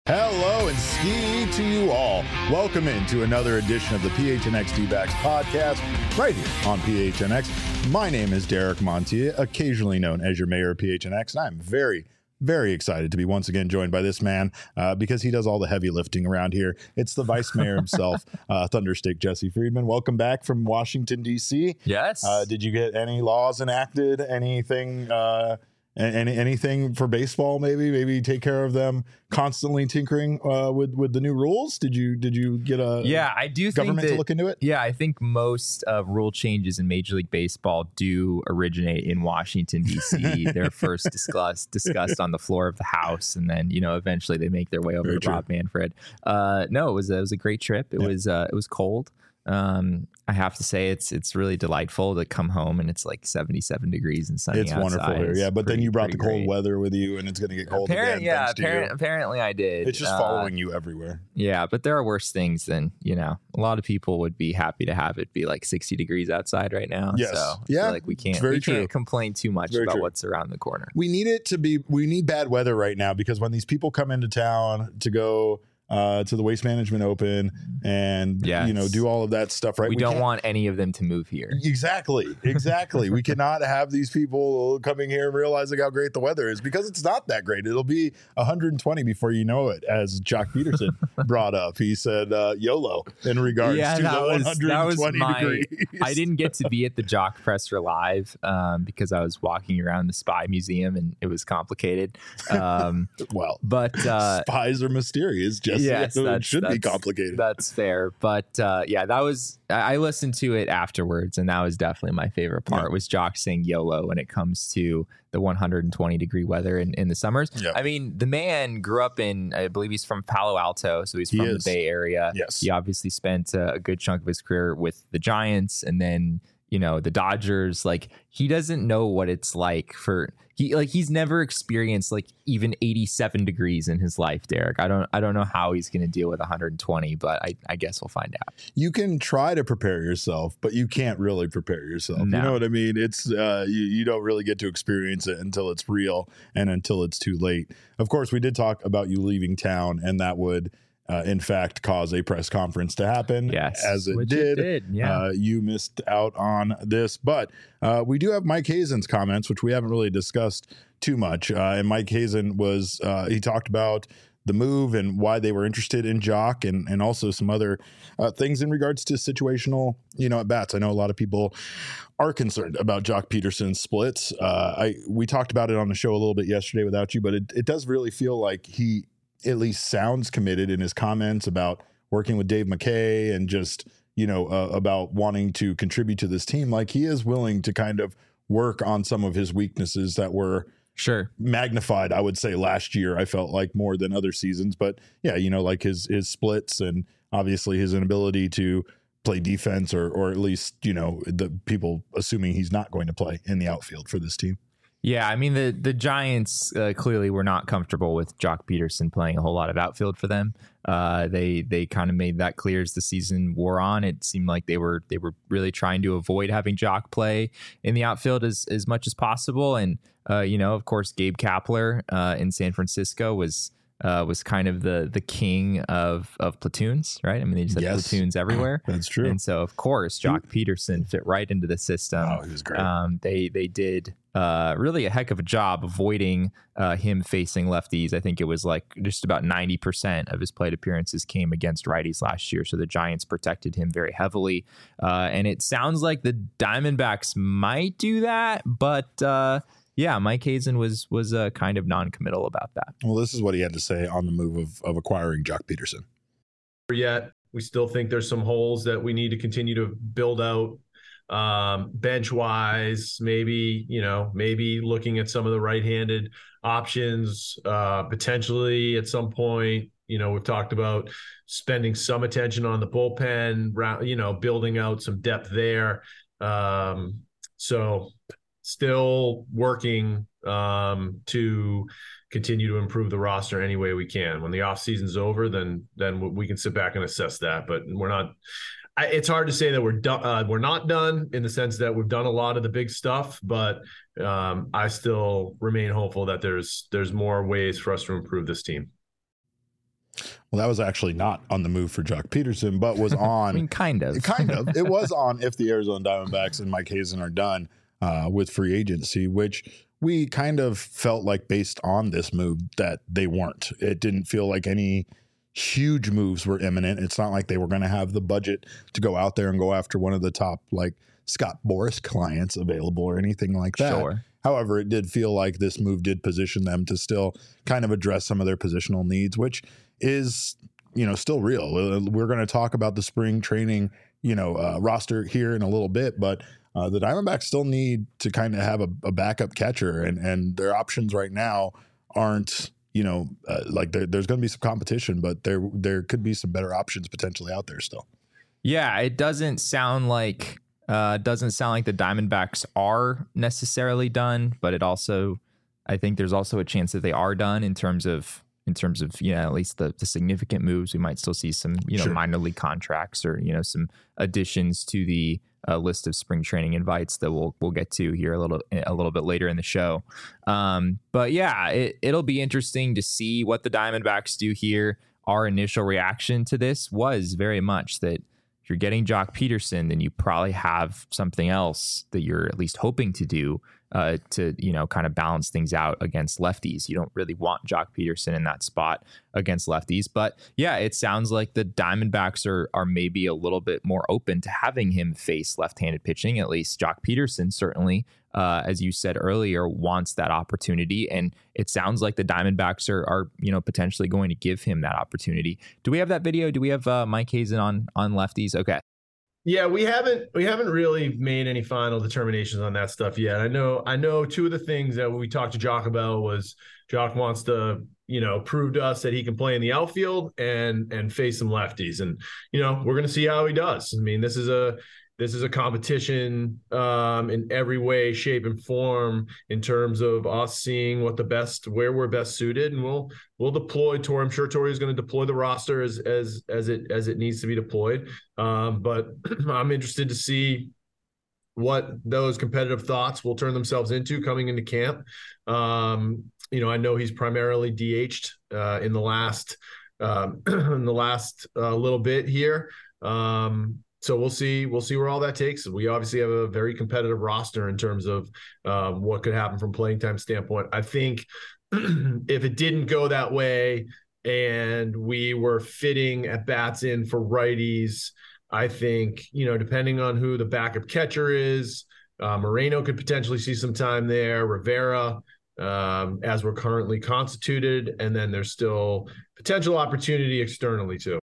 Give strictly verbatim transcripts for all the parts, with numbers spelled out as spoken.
Hello and ski to you all. Welcome into another edition of the P H N X D-Backs podcast right here on P H N X. My name is Derek Montier, occasionally known as your mayor of P H N X, and I'm very, very excited to be once again joined by this man uh, because he does all the heavy lifting around here. It's the vice mayor himself, uh, Thunderstick Jesse Friedman. Welcome back from Washington, D C. Yes. Uh, did you get any laws enacted? Anything... Uh, Any anything for baseball? Maybe maybe take care of them constantly tinkering uh, with with the new rules. Did you did you get a yeah? I do government think that, to look into it. Yeah, I think most uh, rule changes in Major League Baseball do originate in Washington D C. They're first discussed discussed on the floor of the House, and then you know eventually they make their way over Very to true. Rob Manfred. Uh, no, it was a, it was a great trip. It yeah. was uh, it was cold. Um, I have to say it's it's really delightful to come home and it's like seventy-seven degrees and sunny It's outside. wonderful here, yeah. But pretty, then you brought the cold great. weather with you, and it's going to get cold Apparent, again. yeah, thanks to apparent, you. apparently I did. It's just Uh, following you everywhere. Yeah, but there are worse things than, you know, a lot of people would be happy to have it be like sixty degrees outside right now. Yes. So I Yeah, feel like we can't, it's very we true. can't complain too much Very about true. what's around the corner. We need it to be. We need bad weather right now because when these people come into town to go uh, to the Waste Management Open and Yes. you know do all of that stuff, right? We, don't can't- want any of them to move here. Exactly, exactly. We cannot have these people coming here and realizing how great the weather is because it's not that great. It'll be one hundred twenty before you know it, as Jock Peterson brought up. He said uh, YOLO in regards Yeah, to that the was- that was one hundred twenty my- degrees. I didn't get to be at the Jock Presser live um, because I was walking around the Spy Museum and it was complicated. Um, Well, but uh, spies are mysterious. Just yes, it that's- should be that's- complicated. That's fair. But uh, yeah, that was, I I listened to it afterwards, and that was definitely my favorite part Yeah. was Jock saying YOLO when it comes to the one hundred twenty degree weather in, in the summers. Yeah. I mean, the man grew up in, I believe he's from Palo Alto, so he's He from is. the Bay Area. Yes. He obviously spent a, a good chunk of his career with the Giants and then, you know, the Dodgers. Like, he doesn't know what it's like for he like he's never experienced like even eighty-seven degrees in his life, Derek. I don't I don't know how he's going to deal with one hundred twenty, but I, I guess we'll find out. You can try to prepare yourself, but you can't really prepare yourself. No. You know what I mean? It's uh, you, you don't really get to experience it until it's real and until it's too late. Of course, we did talk about you leaving town, and that would, uh, in fact, cause a press conference to happen. Yes, as it which did. it did, yeah. Uh, you missed out on this, but uh, we do have Mike Hazen's comments, which we haven't really discussed too much. Uh, and Mike Hazen was uh, he talked about the move and why they were interested in Jock, and and also some other uh, things in regards to situational, you know, at bats. I know a lot of people are concerned about Jock Peterson's splits. Uh, I we talked about it on the show a little bit yesterday without you, but it, it does really feel like he at least sounds committed in his comments about working with Dave McKay and just, you know, uh, about wanting to contribute to this team. Like, he is willing to kind of work on some of his weaknesses that were Sure. magnified, I would say, last year. I felt like more than other seasons, but yeah, you know, like his his splits and obviously his inability to play defense, or or at least, you know, the people assuming he's not going to play in the outfield for this team. Yeah, I mean, the the Giants uh, clearly were not comfortable with Jock Peterson playing a whole lot of outfield for them. Uh, they they kind of made that clear as the season wore on. It seemed like they were they were really trying to avoid having Jock play in the outfield as as much as possible. And uh, you know, of course, Gabe Kapler uh, in San Francisco was uh, was kind of the the king of of platoons, right? I mean, they just had Yes. platoons everywhere. That's true. And so, of course, Jock Peterson fit right into the system. Oh, he was great. Um, they they did uh, really a heck of a job avoiding uh, him facing lefties. I think it was like just about ninety percent of his plate appearances came against righties last year. So the Giants protected him very heavily. Uh, and it sounds like the Diamondbacks might do that, but uh, yeah, Mike Hazen was was uh, kind of non-committal about that. Well, this is what he had to say on the move of, of acquiring Jock Peterson. Yet we still think there's some holes that we need to continue to build out, um, bench wise, maybe, you know, maybe looking at some of the right-handed options, uh, potentially at some point. You know, we've talked about spending some attention on the bullpen, you know, building out some depth there. Um, so still working um, to continue to improve the roster any way we can. When the off season's over, then then we can sit back and assess that. But we're not. I, it's hard to say that we're done. Uh, we're not done in the sense that we've done a lot of the big stuff. But um, I still remain hopeful that there's there's more ways for us to improve this team. Well, that was actually not on the move for Jock Peterson, but was on. I mean, kind of. kind of. It was on if the Arizona Diamondbacks and Mike Hazen are done uh, with free agency, which we kind of felt like based on this move that they weren't. It didn't feel like any huge moves were imminent. It's not like they were going to have the budget to go out there and go after one of the top like Scott Boras clients available or anything like that. Sure. However, it did feel like this move did position them to still kind of address some of their positional needs, which is, you know, still real. We're going to talk about the spring training, you know, uh, roster here in a little bit, but uh, the Diamondbacks still need to kind of have a, a backup catcher, and and their options right now aren't, you know, uh, like there, there's going to be some competition, but there there could be some better options potentially out there still. Yeah, it doesn't sound like uh, doesn't sound like the Diamondbacks are necessarily done, but it also, I think there's also a chance that they are done in terms of in terms of, you know, at least the, the significant moves. We might still see some, you know, Sure. minor league contracts or, you know, some additions to the uh, list of spring training invites that we'll we'll get to here a little a little bit later in the show. Um, but yeah, it, it'll be interesting to see what the Diamondbacks do here. Our initial reaction to this was very much that if you're getting Jock Peterson, then you probably have something else that you're at least hoping to do uh, to, you know, kind of balance things out against lefties. You don't really want Jock Peterson in that spot against lefties. But yeah, it sounds like the Diamondbacks are are maybe a little bit more open to having him face left-handed pitching. At least Jock Peterson certainly, uh, as you said earlier, wants that opportunity. And it sounds like the Diamondbacks are, are, you know, potentially going to give him that opportunity. Do we have that video? Do we have uh, Mike Hazen on on lefties? Okay. Yeah, we haven't we haven't really made any final determinations on that stuff yet. I know I know two of the things that we talked to Jock about was Jock wants to, you know, prove to us that he can play in the outfield and and face some lefties. And, you know, we're gonna see how he does. I mean, this is a this is a competition um, in every way, shape, and form in terms of us seeing what the best, where we're best suited, and we'll we'll deploy Tori. I'm sure Tori is going to deploy the roster as as as it as it needs to be deployed. Um, but I'm interested to see what those competitive thoughts will turn themselves into coming into camp. Um, you know, I know he's primarily D H'd uh, in the last um, in the last uh, little bit here. Um, So we'll see. We'll see where all that takes us. We obviously have a very competitive roster in terms of um, what could happen from playing time standpoint. I think if it didn't go that way and we were fitting at bats in for righties, I think, you know, depending on who the backup catcher is, uh, Moreno could potentially see some time there. Rivera, um, as we're currently constituted, and then there's still potential opportunity externally too.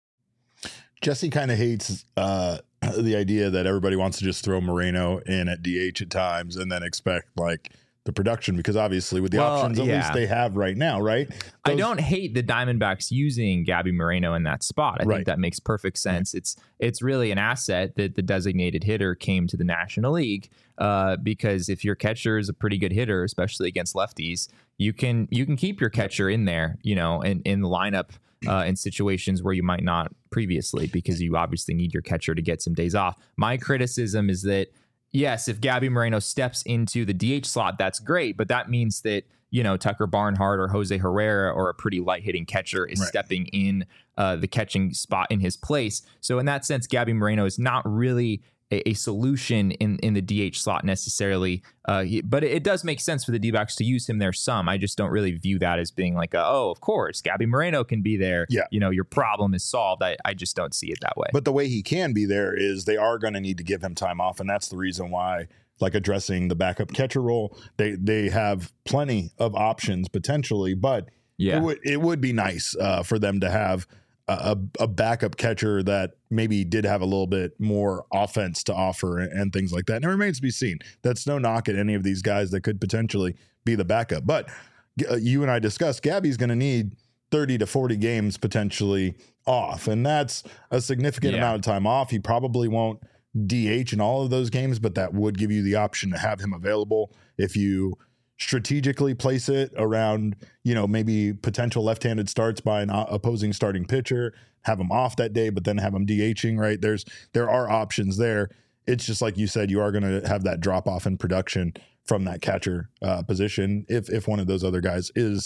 Jesse kind of hates uh, the idea that everybody wants to just throw Moreno in at D H at times and then expect like the production, because obviously with the Well, options at yeah. least they have right now, right? I Those- don't hate the Diamondbacks using Gabby Moreno in that spot. I Right. think that makes perfect sense. It's it's really an asset that the designated hitter came to the National League uh, because if your catcher is a pretty good hitter, especially against lefties, you can you can keep your catcher in there, you know, in, in the lineup uh, in situations where you might not previously, because you obviously need your catcher to get some days off. My criticism is that, yes, if Gabby Moreno steps into the D H slot, that's great, but that means that, you know, Tucker Barnhart or Jose Herrera or a pretty light hitting catcher is Right. stepping in uh, the catching spot in his place. So in that sense, Gabby Moreno is not really a, a solution in, in the D H slot necessarily. Uh, he- but it, it does make sense for the D-backs to use him there some. I just don't really view that as being like, a, oh, of course, Gabby Moreno can be there. Yeah. You know, your problem is solved. I, I just don't see it that way. But the way he can be there is they are going to need to give him time off, and that's the reason why, like addressing the backup catcher role, they they have plenty of options potentially, but yeah. it would it would be nice uh, for them to have a, a backup catcher that maybe did have a little bit more offense to offer and, and things like that. And it remains to be seen. That's no knock at any of these guys that could potentially be the backup. But uh, you and I discussed Gabby's going to need thirty to forty games potentially off, and that's a significant Yeah. amount of time off. He probably won't D H in all of those games, but that would give you the option to have him available if you strategically place it around, you know, maybe potential left-handed starts by an o- opposing starting pitcher, have him off that day, but then have him DHing, right? There's, there are options there. It's just like you said, you are going to have that drop off in production from that catcher uh, position if, if one of those other guys is,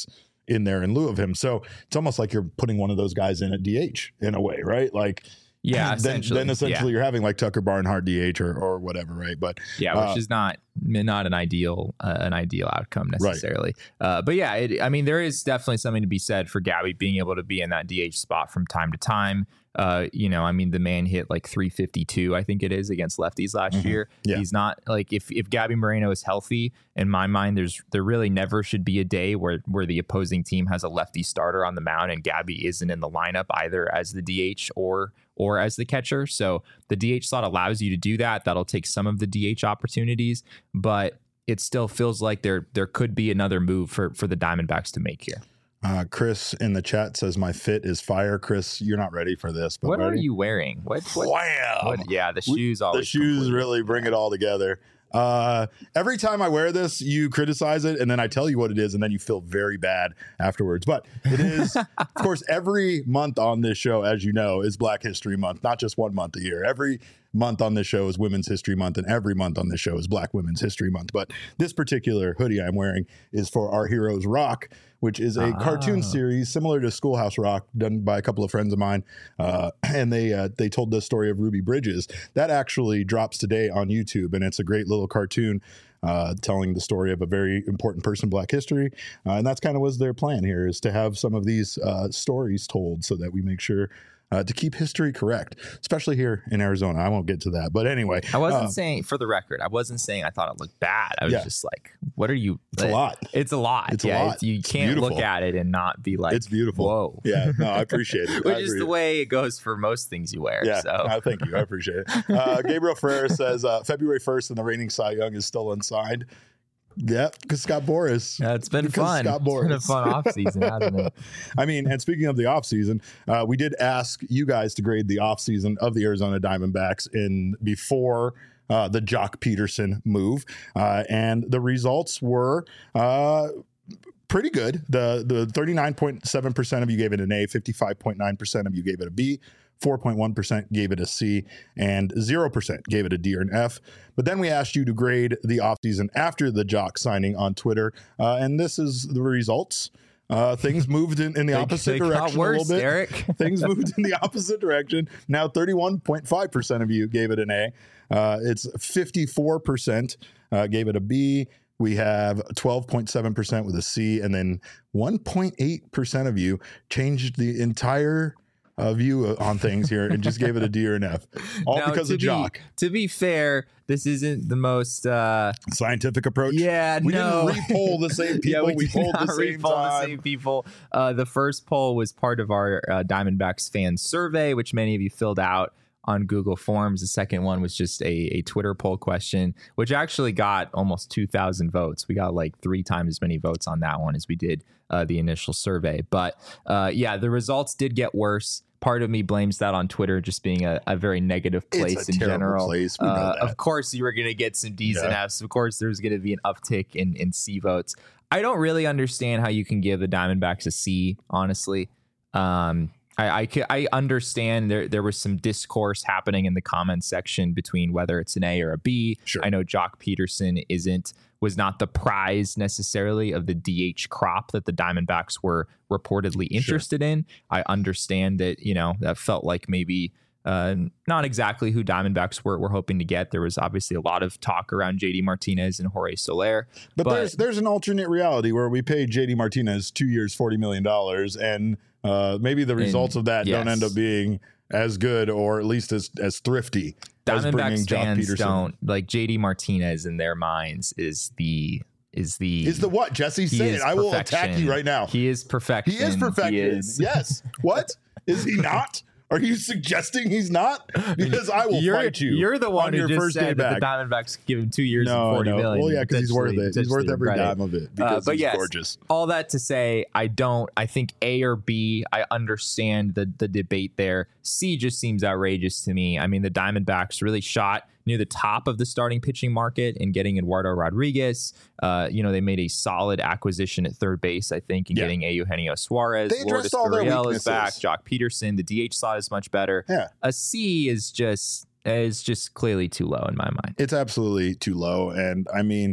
in there in lieu of him. So it's almost like you're putting one of those guys in at D H in a way, right? Like, yeah, then, essentially, then essentially yeah. you're having like Tucker Barnhart D H or, or whatever, right? But yeah, which uh, is not not an ideal uh, an ideal outcome necessarily. Right. Uh, but yeah, it, I mean, there is definitely something to be said for Gabby being able to be in that D H spot from time to time. Uh, you know, I mean, the man hit like three fifty-two, I think it is, against lefties last mm-hmm. year. Yeah. He's not like if if Gabby Moreno is healthy, in my mind, there's there really never should be a day where where the opposing team has a lefty starter on the mound and Gabby isn't in the lineup either as the D H or or as the catcher. So the D H slot allows you to do that. That'll take some of the D H opportunities, but it still feels like there there could be another move for for the Diamondbacks to make here. Uh, Chris in the chat says my fit is fire. Chris, you're not ready for this. But what ready? are you wearing? What? what, Wham! what yeah, the shoes always. The shoes complete. Really bring it all together. Uh, every time I wear this, you criticize it, and then I tell you what it is, and then you feel very bad afterwards. But it is, of course, every month on this show, as you know, is Black History Month. Not just one month a year. Every month on this show is Women's History Month, and every month on this show is Black Women's History Month. But this particular hoodie I'm wearing is for Our Heroes Rock, which is a ah. cartoon series similar to Schoolhouse Rock, done by a couple of friends of mine, uh, and they uh, they told the story of Ruby Bridges. That actually drops today on YouTube, and it's a great little cartoon uh, telling the story of a very important person in Black history, uh, and that's kind of was their plan here, is to have some of these uh, stories told so that we make sure Uh, to keep history correct, especially here in Arizona. I won't get to that. But anyway. I wasn't um, saying, for the record, I wasn't saying I thought it looked bad. I was yeah. just like, what are you? It's a lot. It's a lot. It's yeah, a lot. It's, you it's can't beautiful. look at it and not be like, it's beautiful. Whoa. Yeah, no, I appreciate it. Which I is the way it goes for most things you wear. Yeah, so. no, thank you. I appreciate it. Uh, Gabriel Ferrer says uh, February first and the reigning Cy Young is still unsigned. Yeah, because Scott Boras. Yeah, it's been because fun. Scott Boras. It's been a fun offseason, hasn't it? I mean, and speaking of the offseason, uh, we did ask you guys to grade the offseason of the Arizona Diamondbacks in before uh, the Jock Peterson move. Uh, and the results were uh, pretty good. The the thirty-nine point seven percent of you gave it an A, fifty-five point nine percent of you gave it a B, four point one percent gave it a C, and zero percent gave it a D or an F. But then we asked you to grade the offseason after the Jock signing on Twitter, uh, and this is the results. Uh, things moved in, in the they, opposite they direction worse, a little bit. Eric. Things moved in the opposite direction. Now thirty-one point five percent of you gave it an A. Uh, it's fifty-four percent uh, gave it a B. We have twelve point seven percent with a C, and then one point eight percent of you changed the entire uh, view on things here and just gave it a D or an F. All now, because of be, Jock. To be fair, this isn't the most uh, scientific approach. Yeah, we no. didn't re-poll the same people. yeah, we, we polled the same re-poll time. the same people. Uh, the first poll was part of our uh, Diamondbacks fan survey, which many of you filled out on Google Forms. The second one was just a, a Twitter poll question, which actually got almost two thousand votes. We got like three times as many votes on that one as we did uh, the initial survey. But uh, yeah, the results did get worse. Part of me blames that on Twitter just being a, a very negative place in general. Place. We know uh, that. Of course, you were going to get some D's yeah. and F's. Of course, there's going to be an uptick in, in C votes. I don't really understand how you can give the Diamondbacks a C, honestly. Um, I, I, I understand there there was some discourse happening in the comments section between whether it's an A or a B. Sure. I know Jock Peterson isn't was not the prize necessarily of the D H crop that the Diamondbacks were reportedly interested sure. in. I understand that, you know, that felt like maybe uh, not exactly who Diamondbacks were, were hoping to get. There was obviously a lot of talk around J D Martinez and Jorge Soler. But, but there's there's an alternate reality where we paid J D Martinez two years, forty million dollars, and uh, maybe the results and, of that yes. don't end up being as good or at least as, as thrifty. Diamondbacks fans don't like J D Martinez in their minds is the is the is the what Jesse said. I will attack you right now. He is perfection. He is perfection. He is. Yes. What is he not? Are you suggesting he's not? Because I will you're, fight you. You're the one on who your just first said that the Diamondbacks give him two years no, and forty no. million. Well, yeah, because he's worth it. He's worth every dime of it because uh, but he's yes, gorgeous. All that to say, I don't. I think A or B. I understand the the debate there. C just seems outrageous to me. I mean, the Diamondbacks really shot near the top of the starting pitching market in getting Eduardo Rodriguez. Uh, you know, they made a solid acquisition at third base, I think, in yeah. getting Eugenio Suarez. They addressed all their weaknesses. Is back. Jock Peterson. The D H slot is much better. Yeah. A C is just is just clearly too low in my mind. It's absolutely too low. And I mean,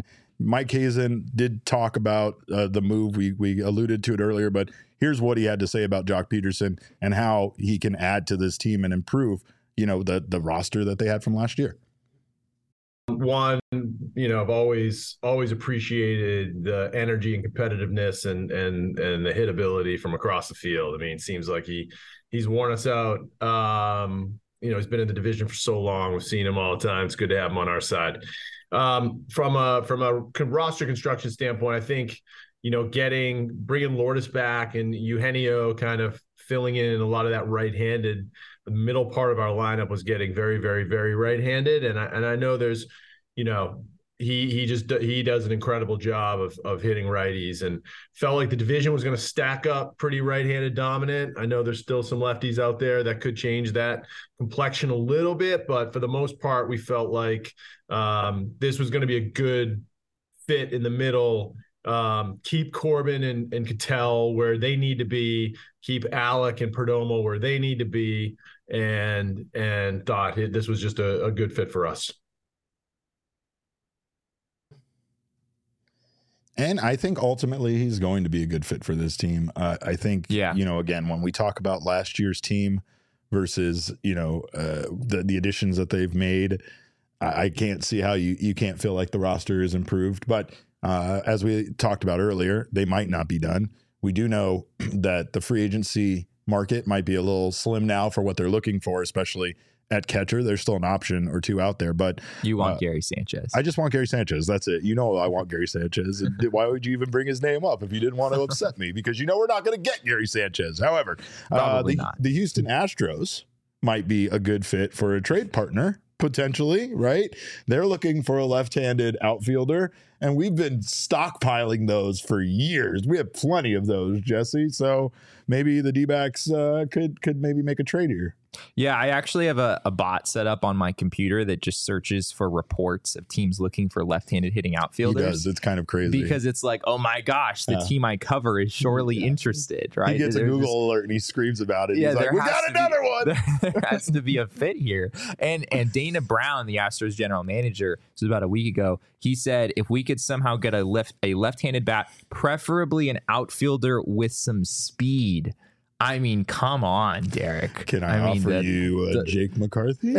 Mike Hazen did talk about uh, the move. We we alluded to it earlier, but here's what he had to say about Jock Peterson and how he can add to this team and improve, you know, the the roster that they had from last year. One, you know, I've always always appreciated the energy and competitiveness and and and the hit ability from across the field. I mean, it seems like he he's worn us out. Um, you know, he's been in the division for so long. We've seen him all the time. It's good to have him on our side. Um, from a from a roster construction standpoint, I think, you know, getting bringing Lourdes back and Eugenio kind of filling in a lot of that right-handed. The middle part of our lineup was getting very, very, very right-handed, and I and I know there's, you know, he he just he does an incredible job of of hitting righties, and felt like the division was going to stack up pretty right-handed dominant. I know there's still some lefties out there that could change that complexion a little bit, but for the most part, we felt like um, this was going to be a good fit in the middle. Um, keep Corbin and, and Cattell where they need to be, keep Alec and Perdomo where they need to be, and and thought this was just a, a good fit for us. And I think ultimately he's going to be a good fit for this team. Uh, I think, yeah. you know, again, when we talk about last year's team versus, you know, uh, the, the additions that they've made, I, I can't see how you, you can't feel like the roster is improved. But uh, as we talked about earlier, they might not be done. We do know that the free agency market might be a little slim now for what they're looking for, especially at catcher. There's still an option or two out there, but you want uh, Gary Sanchez. I just want Gary Sanchez. That's it. You know, I want Gary Sanchez. Why would you even bring his name up if you didn't want to upset me? Because you know we're not going to get Gary Sanchez. However, uh, the, not. the Houston Astros might be a good fit for a trade partner, potentially, right? They're looking for a left-handed outfielder, and we've been stockpiling those for years. We have plenty of those, Jesse. So maybe the D-backs uh, could could maybe make a trade here. Yeah, I actually have a, a bot set up on my computer that just searches for reports of teams looking for left-handed hitting outfielders. He does. It's kind of crazy. Because it's like, oh my gosh, the uh, team I cover is surely yeah. interested, right? He gets There's a Google just, alert and he screams about it. Yeah, He's like, we got another be, one. There has to be a fit here. And and Dana Brown, the Astros general manager, this was about a week ago, he said if we could somehow get a left a left-handed bat, preferably an outfielder with some speed. I mean, come on, Derek. Can I, I mean, offer the, you uh, the, Jake McCarthy?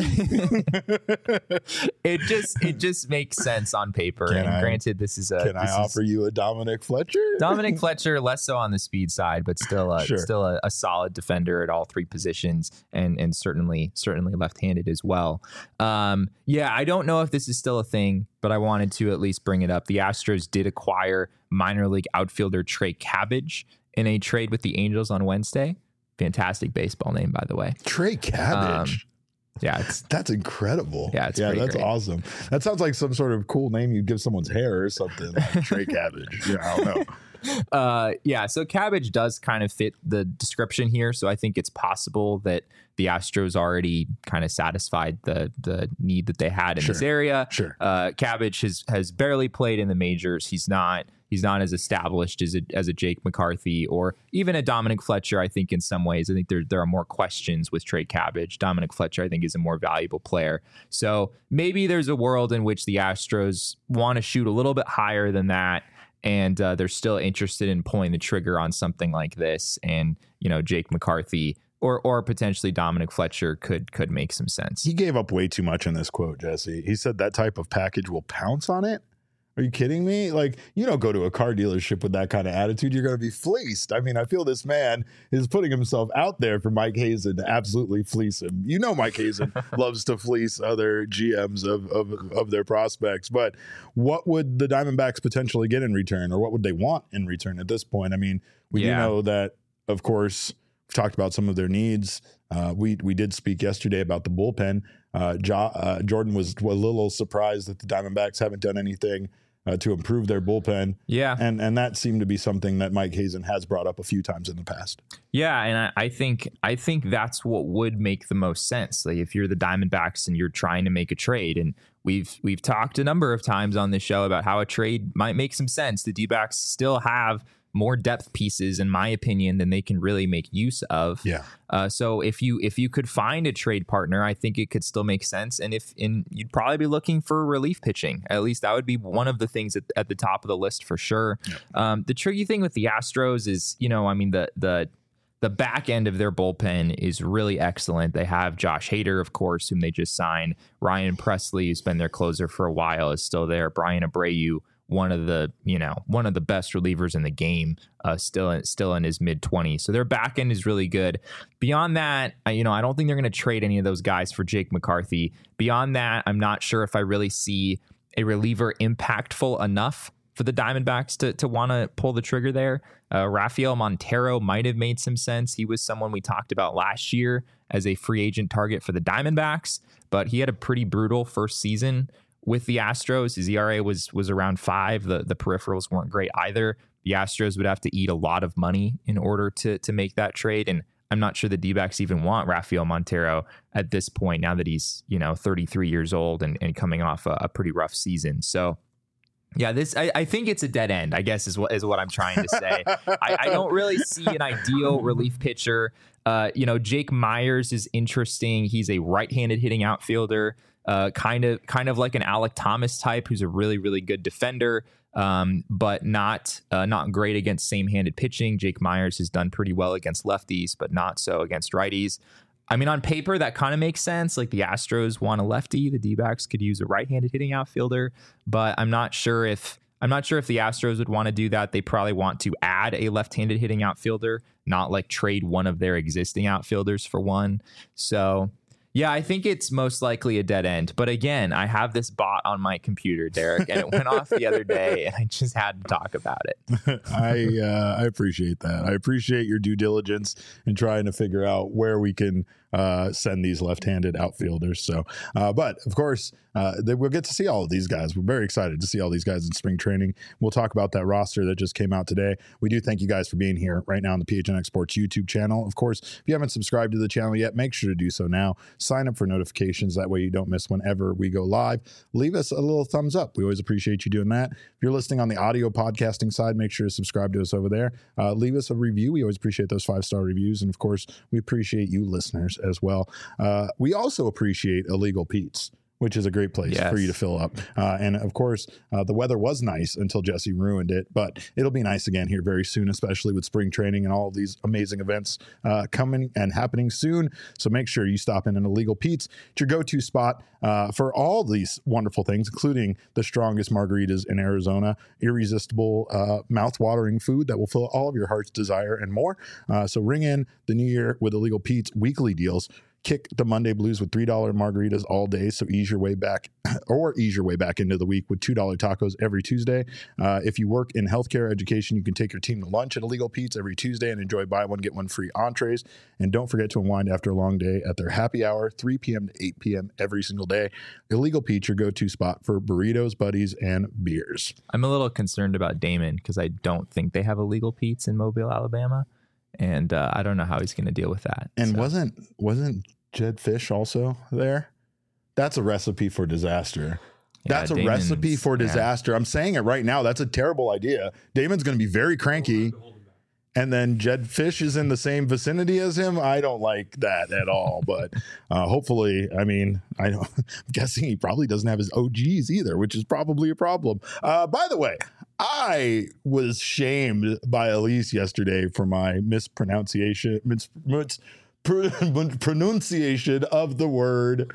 it just it just makes sense on paper. Can and I, granted, this is a. Can this I offer is, you a Dominic Fletcher? Dominic Fletcher, less so on the speed side, but still a sure. still a, a solid defender at all three positions, and and certainly certainly left-handed as well. Um, yeah, I don't know if this is still a thing, but I wanted to at least bring it up. The Astros did acquire minor league outfielder Trey Cabbage in a trade with the Angels on Wednesday. Fantastic baseball name, by the way. Trey Cabbage. Um, yeah, it's that's incredible. Yeah, it's yeah, that's great. awesome. That sounds like some sort of cool name you'd give someone's hair or something. Like Trey Cabbage. Yeah, I don't know. Uh, yeah, so Cabbage does kind of fit the description here. So I think it's possible that the Astros already kind of satisfied the the need that they had in sure. this area. Sure. Uh, Cabbage has has barely played in the majors. He's not he's not as established as a, as a Jake McCarthy or even a Dominic Fletcher. I think in some ways, I think there there are more questions with Trey Cabbage. Dominic Fletcher, I think, is a more valuable player. So maybe there's a world in which the Astros want to shoot a little bit higher than that. And uh, they're still interested in pulling the trigger on something like this. And, you know, Jake McCarthy or or potentially Dominic Fletcher could could make some sense. He gave up way too much in this quote, Jesse. He said that type of package will pounce on it. Are you kidding me? Like, you don't go to a car dealership with that kind of attitude. You're going to be fleeced. I mean, I feel this man is putting himself out there for Mike Hazen to absolutely fleece him. You know, Mike Hazen loves to fleece other G Ms of, of, of their prospects. But what would the Diamondbacks potentially get in return, or what would they want in return at this point? I mean, we yeah. do know that, of course, we've talked about some of their needs. Uh, we we did speak yesterday about the bullpen. Uh, jo- uh, Jordan was, was a little surprised that the Diamondbacks haven't done anything Uh, to improve their bullpen. Yeah. And and that seemed to be something that Mike Hazen has brought up a few times in the past. Yeah, and I, I think I think that's what would make the most sense. Like if you're the Diamondbacks and you're trying to make a trade, and we've we've talked a number of times on this show about how a trade might make some sense. The D-backs still have more depth pieces, in my opinion, than they can really make use of. Yeah. Uh, so if you if you could find a trade partner, I think it could still make sense. And if in you'd probably be looking for relief pitching. At least that would be one of the things at, at the top of the list for sure. Yeah. Um, the tricky thing with the Astros is, you know, I mean, the the the back end of their bullpen is really excellent. They have Josh Hader, of course, whom they just signed. Ryan Presley, who's been their closer for a while, is still there. Brian Abreu, one of the, you know, one of the best relievers in the game, uh, still in, still in his mid twenties. So their back end is really good. Beyond that, I, you know, I don't think they're going to trade any of those guys for Jake McCarthy. Beyond that, I'm not sure if I really see a reliever impactful enough for the Diamondbacks to to want to pull the trigger there. Uh, Rafael Montero might have made some sense. He was someone we talked about last year as a free agent target for the Diamondbacks, but he had a pretty brutal first season with the Astros. His E R A was was around five. The the peripherals weren't great either. The Astros would have to eat a lot of money in order to to make that trade, and I'm not sure the D-backs even want Rafael Montero at this point, now that he's, you know, thirty-three years old and, and coming off a, a pretty rough season. So yeah, this I, I think it's a dead end, I guess, is what is what I'm trying to say. I, I don't really see an ideal relief pitcher. Uh, you know, Jake Myers is interesting. He's a right-handed hitting outfielder, uh, kind of kind of like an Alec Thomas type, who's a really, really good defender, um, but not uh, not great against same-handed pitching. Jake Myers has done pretty well against lefties, but not so against righties. I mean, on paper, that kind of makes sense. Like the Astros want a lefty, the D-backs could use a right-handed hitting outfielder, but I'm not sure if I'm not sure if the Astros would want to do that. They probably want to add a left-handed hitting outfielder, not like trade one of their existing outfielders for one. So yeah, I think it's most likely a dead end. But again, I have this bot on my computer, Derek, and it went off the other day, and I just had to talk about it. I uh, I appreciate that. I appreciate your due diligence in trying to figure out where we can uh, send these left-handed outfielders. So, uh, but of course, uh, they, we'll get to see all of these guys. We're very excited to see all these guys in spring training. We'll talk about that roster that just came out today. We do thank you guys for being here right now on the P H N X Sports YouTube channel. Of course, if you haven't subscribed to the channel yet, make sure to do so now. Sign up for notifications. That way you don't miss whenever we go live. Leave us a little thumbs up. We always appreciate you doing that. If you're listening on the audio podcasting side, make sure to subscribe to us over there. Uh, leave us a review. We always appreciate those five-star reviews. And of course, we appreciate you listeners as well. Uh, we also appreciate Illegal Pete's, which is a great place yes. for you to fill up. Uh, and of course, uh, the weather was nice until Jesse ruined it, but it'll be nice again here very soon, especially with spring training and all of these amazing events uh, coming and happening soon. So make sure you stop in an Illegal Pete's. It's your go-to spot uh, for all these wonderful things, including the strongest margaritas in Arizona, irresistible, uh, mouth-watering food that will fill all of your heart's desire and more. Uh, so ring in the new year with Illegal Pete's weekly deals. Kick the Monday blues with three dollar margaritas all day, so ease your way back or ease your way back into the week with two dollar tacos every Tuesday. Uh, if you work in healthcare education, you can take your team to lunch at Illegal Pete's every Tuesday and enjoy buy one, get one free entrees. And don't forget to unwind after a long day at their happy hour, three p.m. to eight p.m. every single day. Illegal Pete's, your go-to spot for burritos, buddies, and beers. I'm a little concerned about Damon because I don't think they have Illegal Pete's in Mobile, Alabama. And uh, I don't know how he's going to deal with that. And so. wasn't wasn't Jed Fish also there? That's a recipe for disaster. Yeah, That's a Damon's, recipe for disaster. Yeah. I'm saying it right now. That's a terrible idea. Damon's going to be very cranky. And then Jed Fish is in the same vicinity as him. I don't like that at all. But uh, hopefully, I mean, I don't, I'm guessing he probably doesn't have his O Gs either, which is probably a problem. Uh, by the way, I was shamed by Elise yesterday for my mispronunciation, mis, mis, pr- pronunciation of the word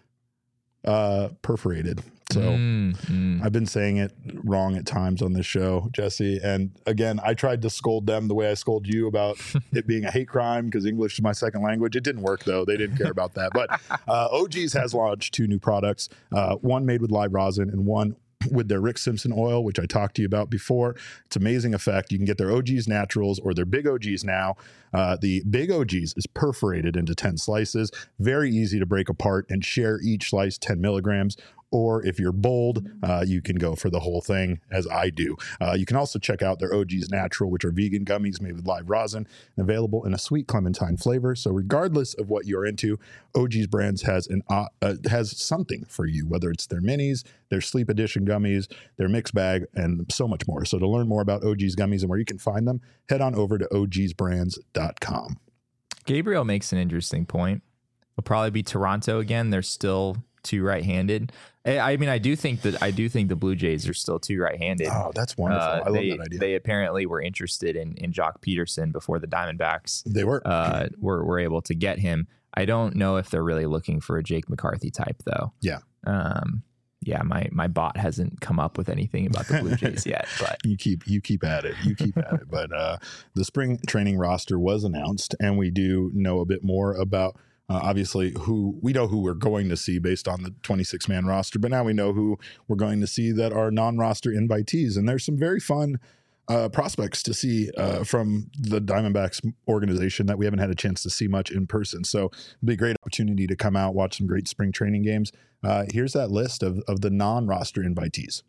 uh, perforated. So mm, mm. I've been saying it wrong at times on this show, Jesse. And again, I tried to scold them the way I scold you about it being a hate crime because English is my second language. It didn't work, though. They didn't care about that. But uh, O G's has launched two new products, uh, one made with live rosin and one with their Rick Simpson oil, which I talked to you about before. It's amazing effect. You can get their O G's Naturals or their Big O G's now. Uh, the Big O G's is perforated into ten slices. Very easy to break apart and share each slice ten milligrams. or if you're bold, uh, you can go for the whole thing, as I do. Uh, you can also check out their O G's Natural, which are vegan gummies made with live rosin, and available in a sweet clementine flavor. So regardless of what you're into, O G's Brands has an uh, uh, has something for you, whether it's their minis, their sleep edition gummies, their mix bag, and so much more. So to learn more about O G's gummies and where you can find them, head on over to O Gs brands dot com. Gabriel makes an interesting point. It'll probably be Toronto again. They're still too right-handed. I, I mean, I do think that I do think the Blue Jays are still too right-handed. Oh, that's wonderful. Uh, I they, love that idea. They apparently were interested in in Jock Peterson before the Diamondbacks. They were. Uh, were were able to get him. I don't know if they're really looking for a Jake McCarthy type, though. Yeah. Um. Yeah, my my bot hasn't come up with anything about the Blue Jays yet, but you keep you keep at it. You keep at it. But uh, the spring training roster was announced, and we do know a bit more about uh, obviously who we know who we're going to see based on the twenty-six man roster. But now we know who we're going to see that are non-roster invitees, and there's some very fun uh, prospects to see uh, from the Diamondbacks organization that we haven't had a chance to see much in person. So it'll be a great opportunity to come out, watch some great spring training games. Uh, here's that list of, of the non-roster invitees.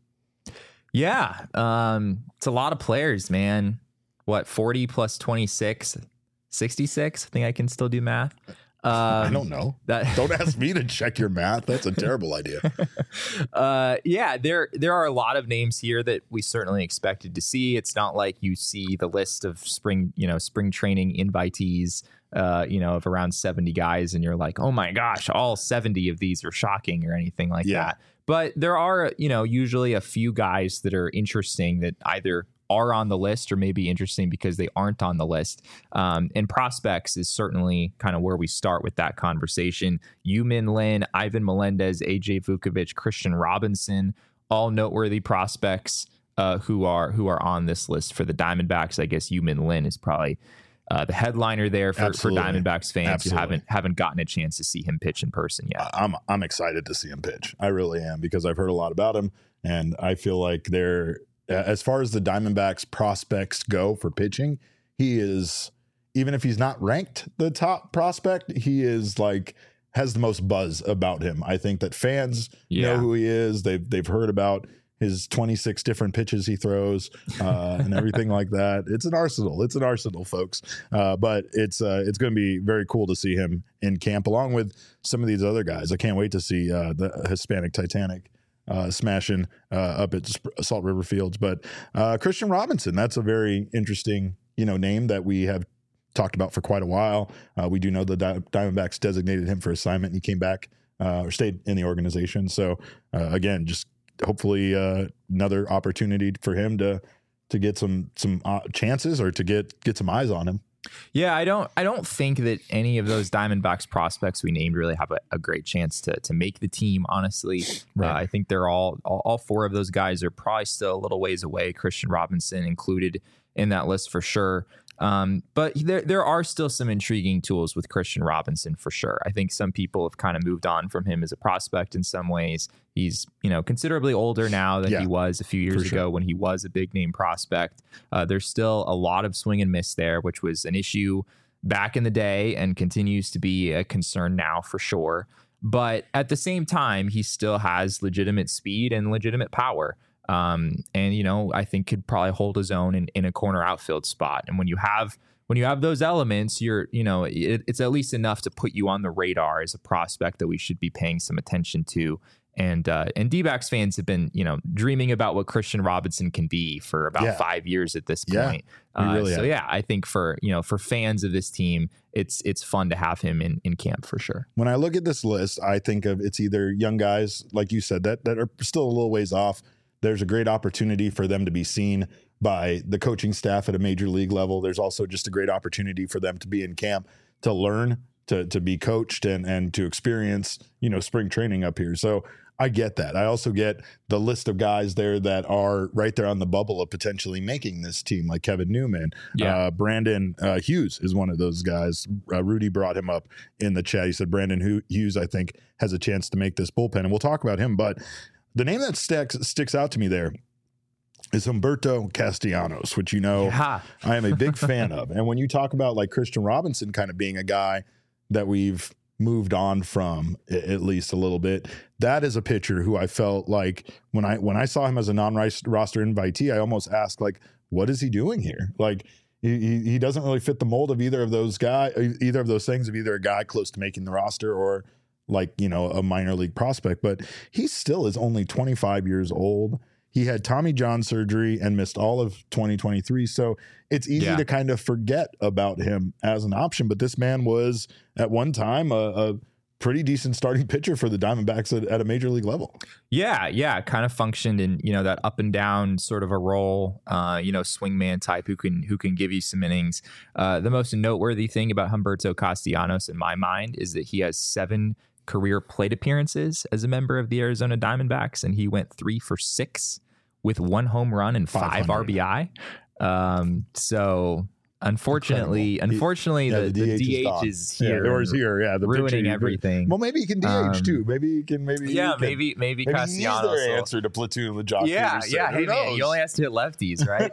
Yeah, um, it's a lot of players, man. What, forty plus twenty-six, sixty-six? I think I can still do math. Um, I don't know. That don't ask me to check your math. That's a terrible idea. uh, yeah, there there are a lot of names here that we certainly expected to see. It's not like you see the list of spring, you know, spring training invitees, uh, you know, of around seventy guys, and you're like, oh my gosh, all seventy of these are shocking or anything like yeah. that. But there are, you know, usually a few guys that are interesting that either are on the list or maybe interesting because they aren't on the list. Um, and prospects is certainly kind of where we start with that conversation. Yu-Min Lin, Ivan Melendez, A J Vukovich, Christian Robinson, all noteworthy prospects uh, who are who are on this list for the Diamondbacks. I guess Yu-Min Lin is probably uh, the headliner there for, for Diamondbacks fans Absolutely. who haven't haven't gotten a chance to see him pitch in person yet. I'm I'm excited to see him pitch. I really am, because I've heard a lot about him, and I feel like they're, as far as the Diamondbacks prospects go for pitching, he is, even if he's not ranked the top prospect, he is like has the most buzz about him. I think that fans Yeah. know who he is. They've they've heard about his twenty-six different pitches he throws uh, and everything like that. It's an arsenal. It's an arsenal, folks. Uh, but it's uh, it's going to be very cool to see him in camp along with some of these other guys. I can't wait to see uh, the Hispanic Titanic uh, smashing uh, up at Salt River Fields. But uh, Christian Robinson, that's a very interesting, you know, name that we have talked about for quite a while. Uh, we do know the Di- Diamondbacks designated him for assignment, and he came back uh, or stayed in the organization. So uh, again, just hopefully uh, another opportunity for him to to get some some uh, chances or to get get some eyes on him. Yeah, I don't I don't think that any of those Diamondbacks prospects we named really have a, a great chance to to make the team, honestly. Right. Uh, I think they're all, all all four of those guys are probably still a little ways away, Christian Robinson included in that list for sure. Um, but there there are still some intriguing tools with Christian Robinson for sure. I think some people have kind of moved on from him as a prospect in some ways. He's, you know, considerably older now than Yeah, he was a few years for ago sure. when he was a big name prospect. Uh, there's still a lot of swing and miss there, which was an issue back in the day and continues to be a concern now for sure. But at the same time, he still has legitimate speed and legitimate power. Um, and, you know, I think could probably hold his own in, in a corner outfield spot. And when you have when you have those elements, you're, you know, it, it's at least enough to put you on the radar as a prospect that we should be paying some attention to. And uh, and D-backs fans have been, you know, dreaming about what Christian Robinson can be for about Yeah. five years at this Yeah, point. we Uh, really so have. yeah, I think for, you know, for fans of this team, it's it's fun to have him in, in camp for sure. When I look at this list, I think of it's either young guys, like you said, that that are still a little ways off. There's a great opportunity for them to be seen by the coaching staff at a major league level. There's also just a great opportunity for them to be in camp, to learn, to to be coached, and and to experience, you know, spring training up here. So I get that. I also get the list of guys there that are right there on the bubble of potentially making this team, like Kevin Newman. Yeah. Uh, Brandon uh, Hughes is one of those guys. Uh, Rudy brought him up in the chat. He said Brandon Hu- Hughes, I think, has a chance to make this bullpen, and we'll talk about him. But the name that sticks sticks out to me there is Humberto Castellanos, which, you know, Yeah. I am a big fan of. And when you talk about like Christian Robinson kind of being a guy that we've moved on from, at least a little bit. That is a pitcher who I felt like when I when I saw him as a non-roster invitee, I almost asked, like, what is he doing here? Like, he he doesn't really fit the mold of either of those guys, either of those things, of either a guy close to making the roster or like, you know, a minor league prospect. But he still is only twenty-five years old. He had Tommy John surgery and missed all of twenty twenty-three. So it's easy yeah. to kind of forget about him as an option. But this man was at one time a, a pretty decent starting pitcher for the Diamondbacks at, at a major league level. Yeah, yeah, kind of functioned in, you know, that up and down sort of a role, uh, you know, swingman type who can who can give you some innings. Uh, the most noteworthy thing about Humberto Castellanos in my mind is that he has seven career plate appearances as a member of the Arizona Diamondbacks, and he went three for six with one home run and five R B I. Um, so unfortunately, Incredible. unfortunately, yeah, the, the, the D H, D H is, is here, yeah, or is here, yeah, the ruining everything. Well, maybe he can D H um, too. Maybe he can. Maybe yeah, he can, maybe maybe, maybe Castellanos he's their will, answer to platoon with Josh Yeah, Peterson. yeah. Who Hey knows? man, you only has to hit lefties, right?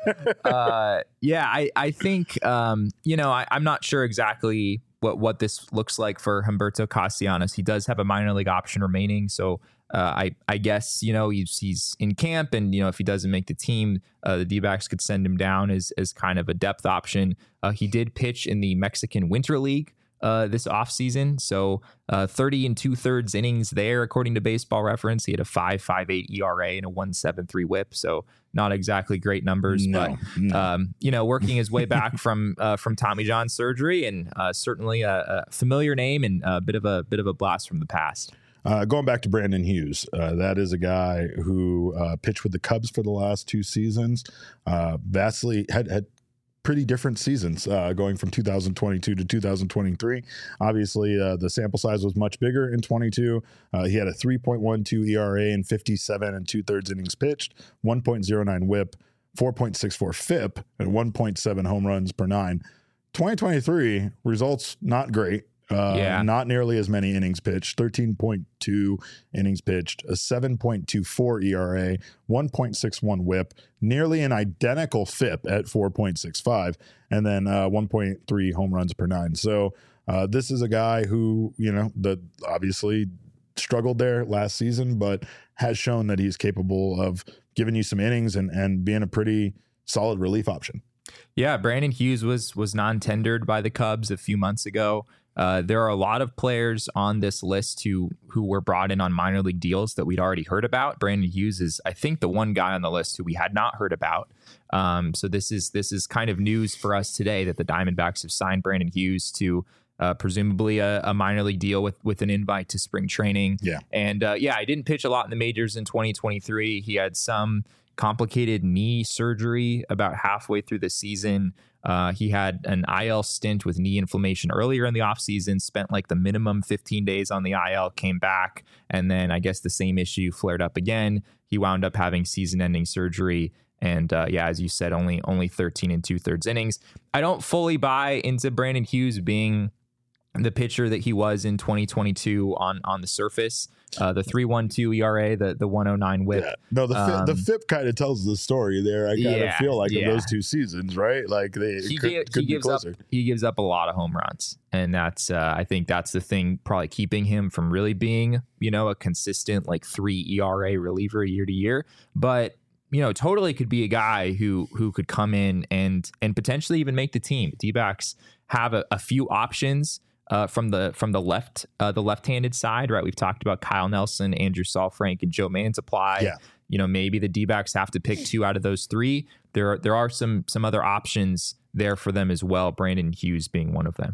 uh, yeah, I I think um, you know I, I'm not sure exactly what what this looks like for Humberto Castellanos. He does have a minor league option remaining, so. Uh, I, I guess, you know, he's, he's in camp, and, you know, if he doesn't make the team, uh, the D-backs could send him down as, as kind of a depth option. Uh, he did pitch in the Mexican Winter League uh, this offseason. So uh, thirty and two thirds innings there, according to Baseball Reference. He had a five point five eight E R A and a one point seven three whip. So not exactly great numbers, no, but, no. Um, you know, working his way back from uh, from Tommy John surgery, and uh, certainly a, a familiar name and a bit of a bit of a blast from the past. Uh, going back to Brandon Hughes, uh, that is a guy who uh, pitched with the Cubs for the last two seasons. Uh, vastly had had pretty different seasons uh, going from two thousand twenty-two to two thousand twenty-three. Obviously, uh, the sample size was much bigger in twenty-two. Uh, he had a three point one two E R A and fifty-seven and two thirds innings pitched, one point oh nine whip, four point six four F I P, and one point seven home runs per nine. twenty twenty-three results not great. Uh, yeah. Not nearly as many innings pitched, thirteen point two innings pitched, a seven point two four E R A, one point six one whip, nearly an identical F I P at four point six five, and then uh, one point three home runs per nine. So uh, this is a guy who, you know, that obviously struggled there last season, but has shown that he's capable of giving you some innings and, and being a pretty solid relief option. Yeah, Brandon Hughes was was non-tendered by the Cubs a few months ago. Uh, there are a lot of players on this list who who were brought in on minor league deals that we'd already heard about. Brandon Hughes is, I think, the one guy on the list who we had not heard about. Um, so this is this is kind of news for us today that the Diamondbacks have signed Brandon Hughes to uh, presumably a, a minor league deal with with an invite to spring training. Yeah, and uh, yeah, I didn't pitch a lot in the majors in twenty twenty-three. He had some complicated knee surgery about halfway through the season. Uh, he had an I L stint with knee inflammation earlier in the offseason, spent like the minimum fifteen days on the I L, came back, and then I guess the same issue flared up again. He wound up having season-ending surgery. And uh, yeah, as you said, only only thirteen and two thirds innings. I don't fully buy into Brandon Hughes being the pitcher that he was in twenty twenty-two on on the surface. Uh, the three point one two E R A, the the one oh nine whip. Yeah. No, the um, the F I P kind of tells the story there. I kind of yeah, feel like yeah. in those two seasons, right? Like they he, could, gave, could he gives closer. up he gives up a lot of home runs, and that's uh, I think that's the thing probably keeping him from really being, you know, a consistent like three E R A reliever year to year. But you know, totally could be a guy who who could come in and and potentially even make the team. D-backs have a, a few options. Uh, from the from the left uh, the left-handed side, right? We've talked about Kyle Nelson, Andrew Saalfrank, and Joe Mantiply. Yeah. You know, maybe the D-backs have to pick two out of those three. There are, there are some some other options there for them as well. Brandon Hughes being one of them.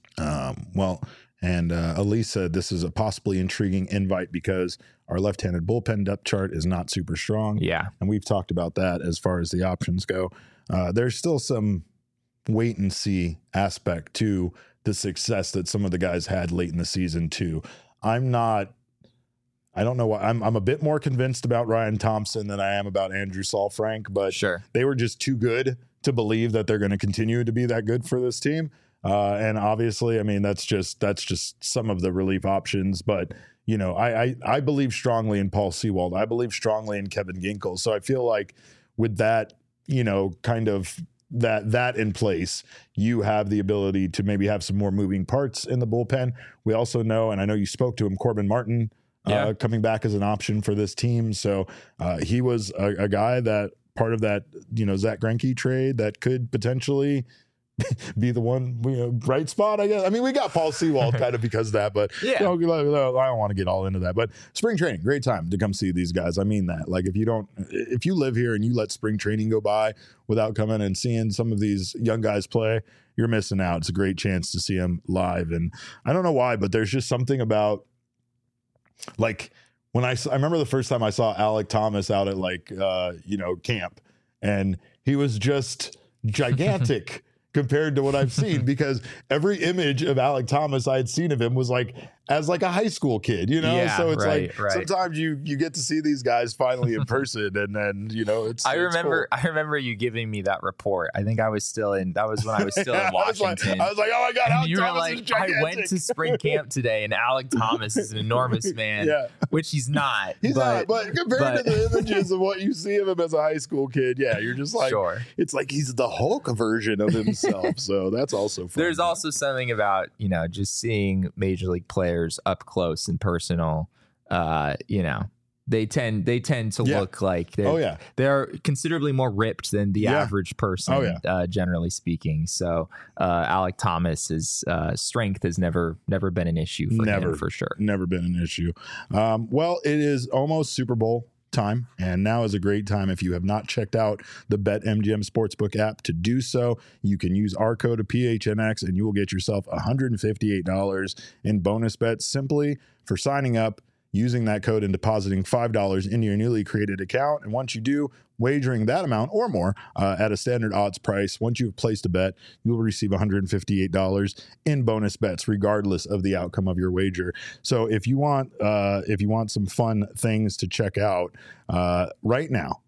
Um, well, and uh, Elise said this is a possibly intriguing invite because our left-handed bullpen depth chart is not super strong. Yeah, and we've talked about that as far as the options go. Uh, there's still some wait and see aspect to the success that some of the guys had late in the season too. I'm not, I don't know why I'm, I'm a bit more convinced about Ryan Thompson than I am about Andrew Saalfrank, but sure. They were just too good to believe that they're going to continue to be that good for this team. Uh, and obviously, I mean, that's just, that's just some of the relief options, but you know, I, I, I believe strongly in Paul Sewald. I believe strongly in Kevin Ginkel. So I feel like with that, you know, kind of that that in place, you have the ability to maybe have some more moving parts in the bullpen. We also know, and I know you spoke to him, Corbin Martin Yeah. uh, coming back as an option for this team. So uh, he was a, a guy that part of that, you know, Zach Greinke trade that could potentially be the one, you know, bright spot, I guess. I mean, we got Paul Sewald kind of because of that, but Yeah. you know, I don't want to get all into that. But spring training, great time to come see these guys. I mean that. Like, if you don't, if you live here and you let spring training go by without coming and seeing some of these young guys play, you're missing out. It's a great chance to see them live. And I don't know why, but there's just something about, like, when I, I remember the first time I saw Alec Thomas out at, like, uh, you know, camp, and he was just gigantic compared to what I've seen, because every image of Alec Thomas I had seen of him was like as like a high school kid, you know? Yeah, so it's right, like right. sometimes you you get to see these guys finally in person, and then, you know, it's I it's remember cool. I remember you giving me that report. I think I was still in that was when I was still Yeah, in I was like- Washington. I was like, oh my God, And Alec you were Thomas like, is I gigantic. went to spring camp today, and Alec Thomas is an enormous man, Yeah. which he's not. He's but, not, but compared but- to the images of what you see of him as a high school kid, yeah, you're just like, sure. it's like he's the Hulk version of himself. So that's also fun. There's also something about, you know, just seeing major league players up close and personal. Uh, you know, they tend they tend to Yeah. look like they're Oh, yeah. they're considerably more ripped than the Yeah. average person. Oh, yeah. uh, generally speaking. So uh, Alec Thomas's uh, strength has never never been an issue for Never. him for sure. Never been an issue. Um, well, it is almost Super Bowl time, and now is a great time. If you have not checked out the BetMGM Sportsbook app, to do so. You can use our code P H N X and you will get yourself one hundred fifty-eight dollars in bonus bets simply for signing up, using that code, and depositing five dollars into your newly created account. And once you do, wagering that amount or more uh, at a standard odds price, once you've placed a bet, you will receive one hundred fifty-eight dollars in bonus bets, regardless of the outcome of your wager. So if you want, uh, if you want some fun things to check out uh, right now,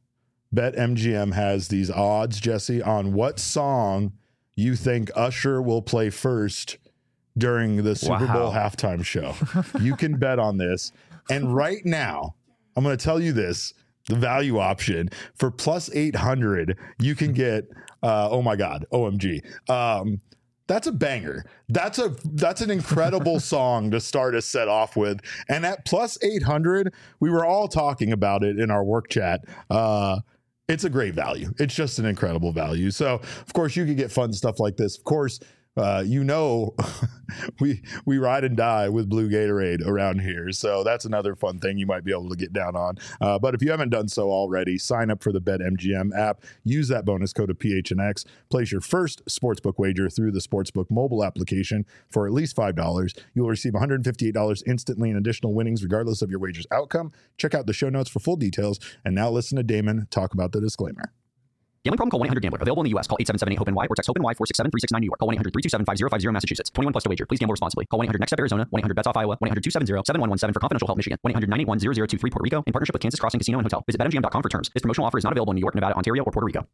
BetMGM has these odds, Jesse, on what song you think Usher will play first during the Super Wow. Bowl halftime show. You can bet on this. And right now, I'm going to tell you this, the value option for plus eight hundred, you can get, uh, oh my God, O M G. Um, that's a banger. That's a, that's an incredible song to start a set off with. And at plus eight hundred, we were all talking about it in our work chat. Uh, it's a great value. It's just an incredible value. So of course you could get fun stuff like this. Of course, Uh, you know, we we ride and die with Blue Gatorade around here. So that's another fun thing you might be able to get down on. Uh, but if you haven't done so already, sign up for the BetMGM app. Use that bonus code of P H N X. Place your first sportsbook wager through the Sportsbook mobile application for at least five dollars. You'll receive one hundred fifty-eight dollars instantly in additional winnings, regardless of your wager's outcome. Check out the show notes for full details. And now listen to Damon talk about the disclaimer. Gambling problem? Call one eight hundred gambler. Available in the U S. Call eight seven seven eight hope N Y or text HOPE-NY four six seven three six nine New York. Call one eight hundred three two seven five zero five zero Massachusetts. twenty-one plus to wager. Please gamble responsibly. Call one eight hundred next step Arizona. one eight hundred bets off Iowa. one eight hundred two seven zero seven one one seven for confidential help Michigan. one eight hundred nine eight one zero zero two three Puerto Rico in partnership with Kansas Crossing Casino and Hotel. Visit bet M G M dot com for terms. This promotional offer is not available in New York, Nevada, Ontario, or Puerto Rico.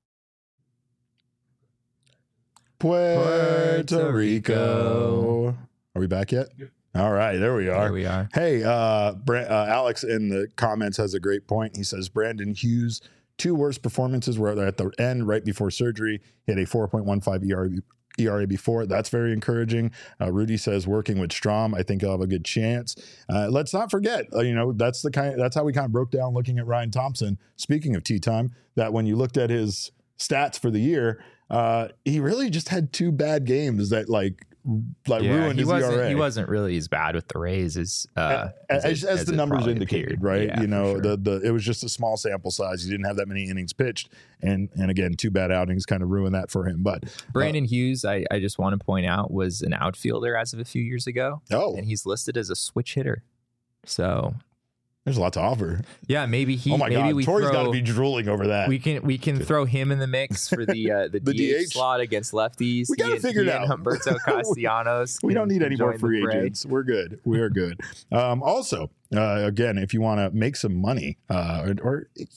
Puerto Rico. Are we back yet? Yep. All right, there we are. There we are. Hey, uh, Bra- uh, Alex in the comments has a great point. He says Brandon Hughes' two worst performances were at the end right before surgery. He had a four point one five E R A, E R A before. That's very encouraging. Uh, Rudy says working with Strom, I think he'll have a good chance. Uh, let's not forget, uh, you know, that's the kind. That's how we kind of broke down looking at Ryan Thompson. Speaking of tea time, that when you looked at his stats for the year, uh, he really just had two bad games that like like Yeah, ruined he his wasn't, E R A. He wasn't really as bad with the Rays as uh, as, as, it- as the it numbers probably indicated, appeared. right? Yeah, you for know, sure. the the it was just a small sample size. He didn't have that many innings pitched, and and again, two bad outings kind of ruined that for him. But Brandon Hughes, I, I just want to point out, was an outfielder as of a few years ago, uh, oh, and he's listed as a switch hitter. So there's a lot to offer. yeah, maybe he. oh my maybe God, we Tori's got to throw, be drooling over that. We can we can throw him in the mix for the uh, the, The D H, D H? slot against lefties. We gotta He and- figure it he and out. Humberto Castellanos. We don't can- need any can more join the free fray. agents. We're good. We are good. Um, also, uh, again, if you want to make some money, uh, or, or you know,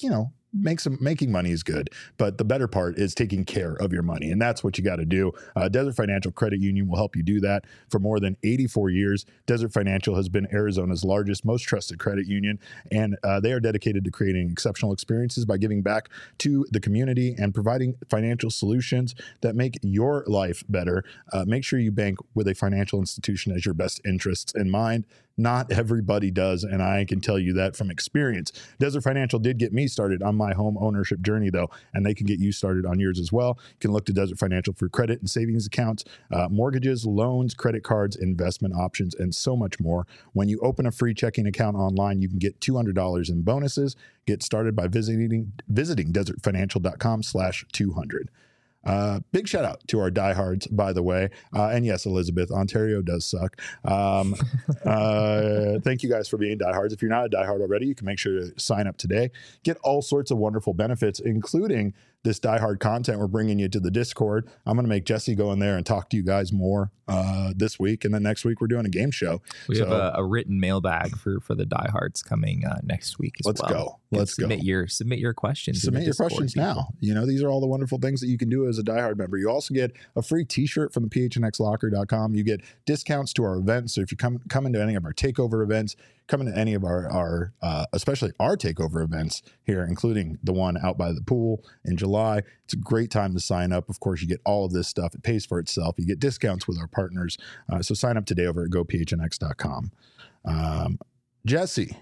make some making money is good, but the better part is taking care of your money. And that's what you got to do. Uh, Desert Financial Credit Union will help you do that. For more than eighty-four years, Desert Financial has been Arizona's largest, most trusted credit union. And uh, they are dedicated to creating exceptional experiences by giving back to the community and providing financial solutions that make your life better. Uh, make sure you bank with a financial institution as your best interests in mind. Not everybody does, and I can tell you that from experience. Desert Financial did get me started on my home ownership journey, though, and they can get you started on yours as well. You can look to Desert Financial for credit and savings accounts, uh, mortgages, loans, credit cards, investment options, and so much more. When you open a free checking account online, you can get two hundred dollars in bonuses. Get started by visiting visiting desertfinancial.com slash 200. Uh, big shout out to our diehards, by the way. Uh, and yes, Elizabeth, Ontario does suck. Um, uh, thank you guys for being diehards. If you're not a diehard already, you can make sure to sign up today. Get all sorts of wonderful benefits, including this diehard content we're bringing you to the Discord. I'm going to make Jesse go in there and talk to you guys more uh, this week. And then next week, we're doing a game show. We so, have a, a written mailbag for, for the diehards coming uh, next week as let's well. go. Let's submit go. Your, submit your questions. Submit your Discord questions people. now. You know, these are all the wonderful things that you can do as a diehard member. You also get a free t-shirt from the p h n x locker dot com. You get discounts to our events. So if you come, come into any of our takeover events, come into any of our, our uh, especially our takeover events here, including the one out by the pool in July. It's a great time to sign up. Of course, you get all of this stuff. It pays for itself. You get discounts with our partners. Uh, so sign up today over at go p h n x dot com. Um, Jesse,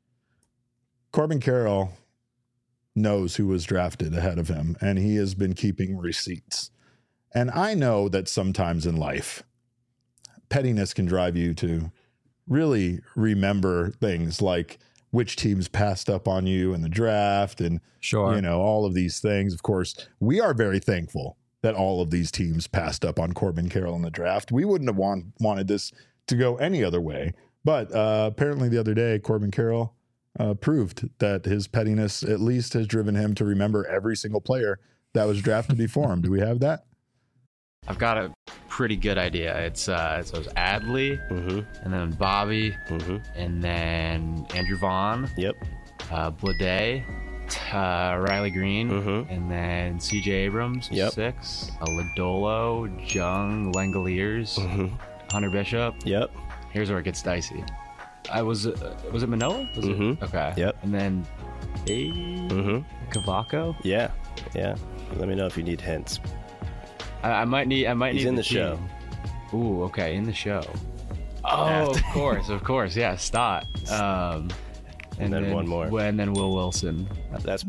Corbin Carroll knows who was drafted ahead of him, and he has been keeping receipts. And I know that sometimes in life, pettiness can drive you to really remember things like which teams passed up on you in the draft and, sure, you know, all of these things. Of course, we are very thankful that all of these teams passed up on Corbin Carroll in the draft. We wouldn't have want, wanted this to go any other way. But uh, apparently the other day, Corbin Carroll uh, proved that his pettiness at least has driven him to remember every single player that was drafted before him. Do we have that? I've got a pretty good idea. It's uh, so it's Adley, mm-hmm. and then Bobby, mm-hmm. and then Andrew Vaughn. Yep. Uh, Blade, uh, Riley Green, mm-hmm. and then C J Abrams. Yep. Six. Uh, Lodolo, Jung, Langoliers, mm-hmm. Hunter Bishop. Yep. Here's where it gets dicey. I was uh, was it Manoa? Was mm-hmm. it? Okay. Yep. And then A. Mm-hmm. Cavaco. Yeah. Yeah. Let me know if you need hints. I, I might need. I might He's need in the, the show. Ooh, okay, in the show. Oh, of course, of course, yeah, Stott. Um, and, and then, then one more, and then Will Wilson. That's.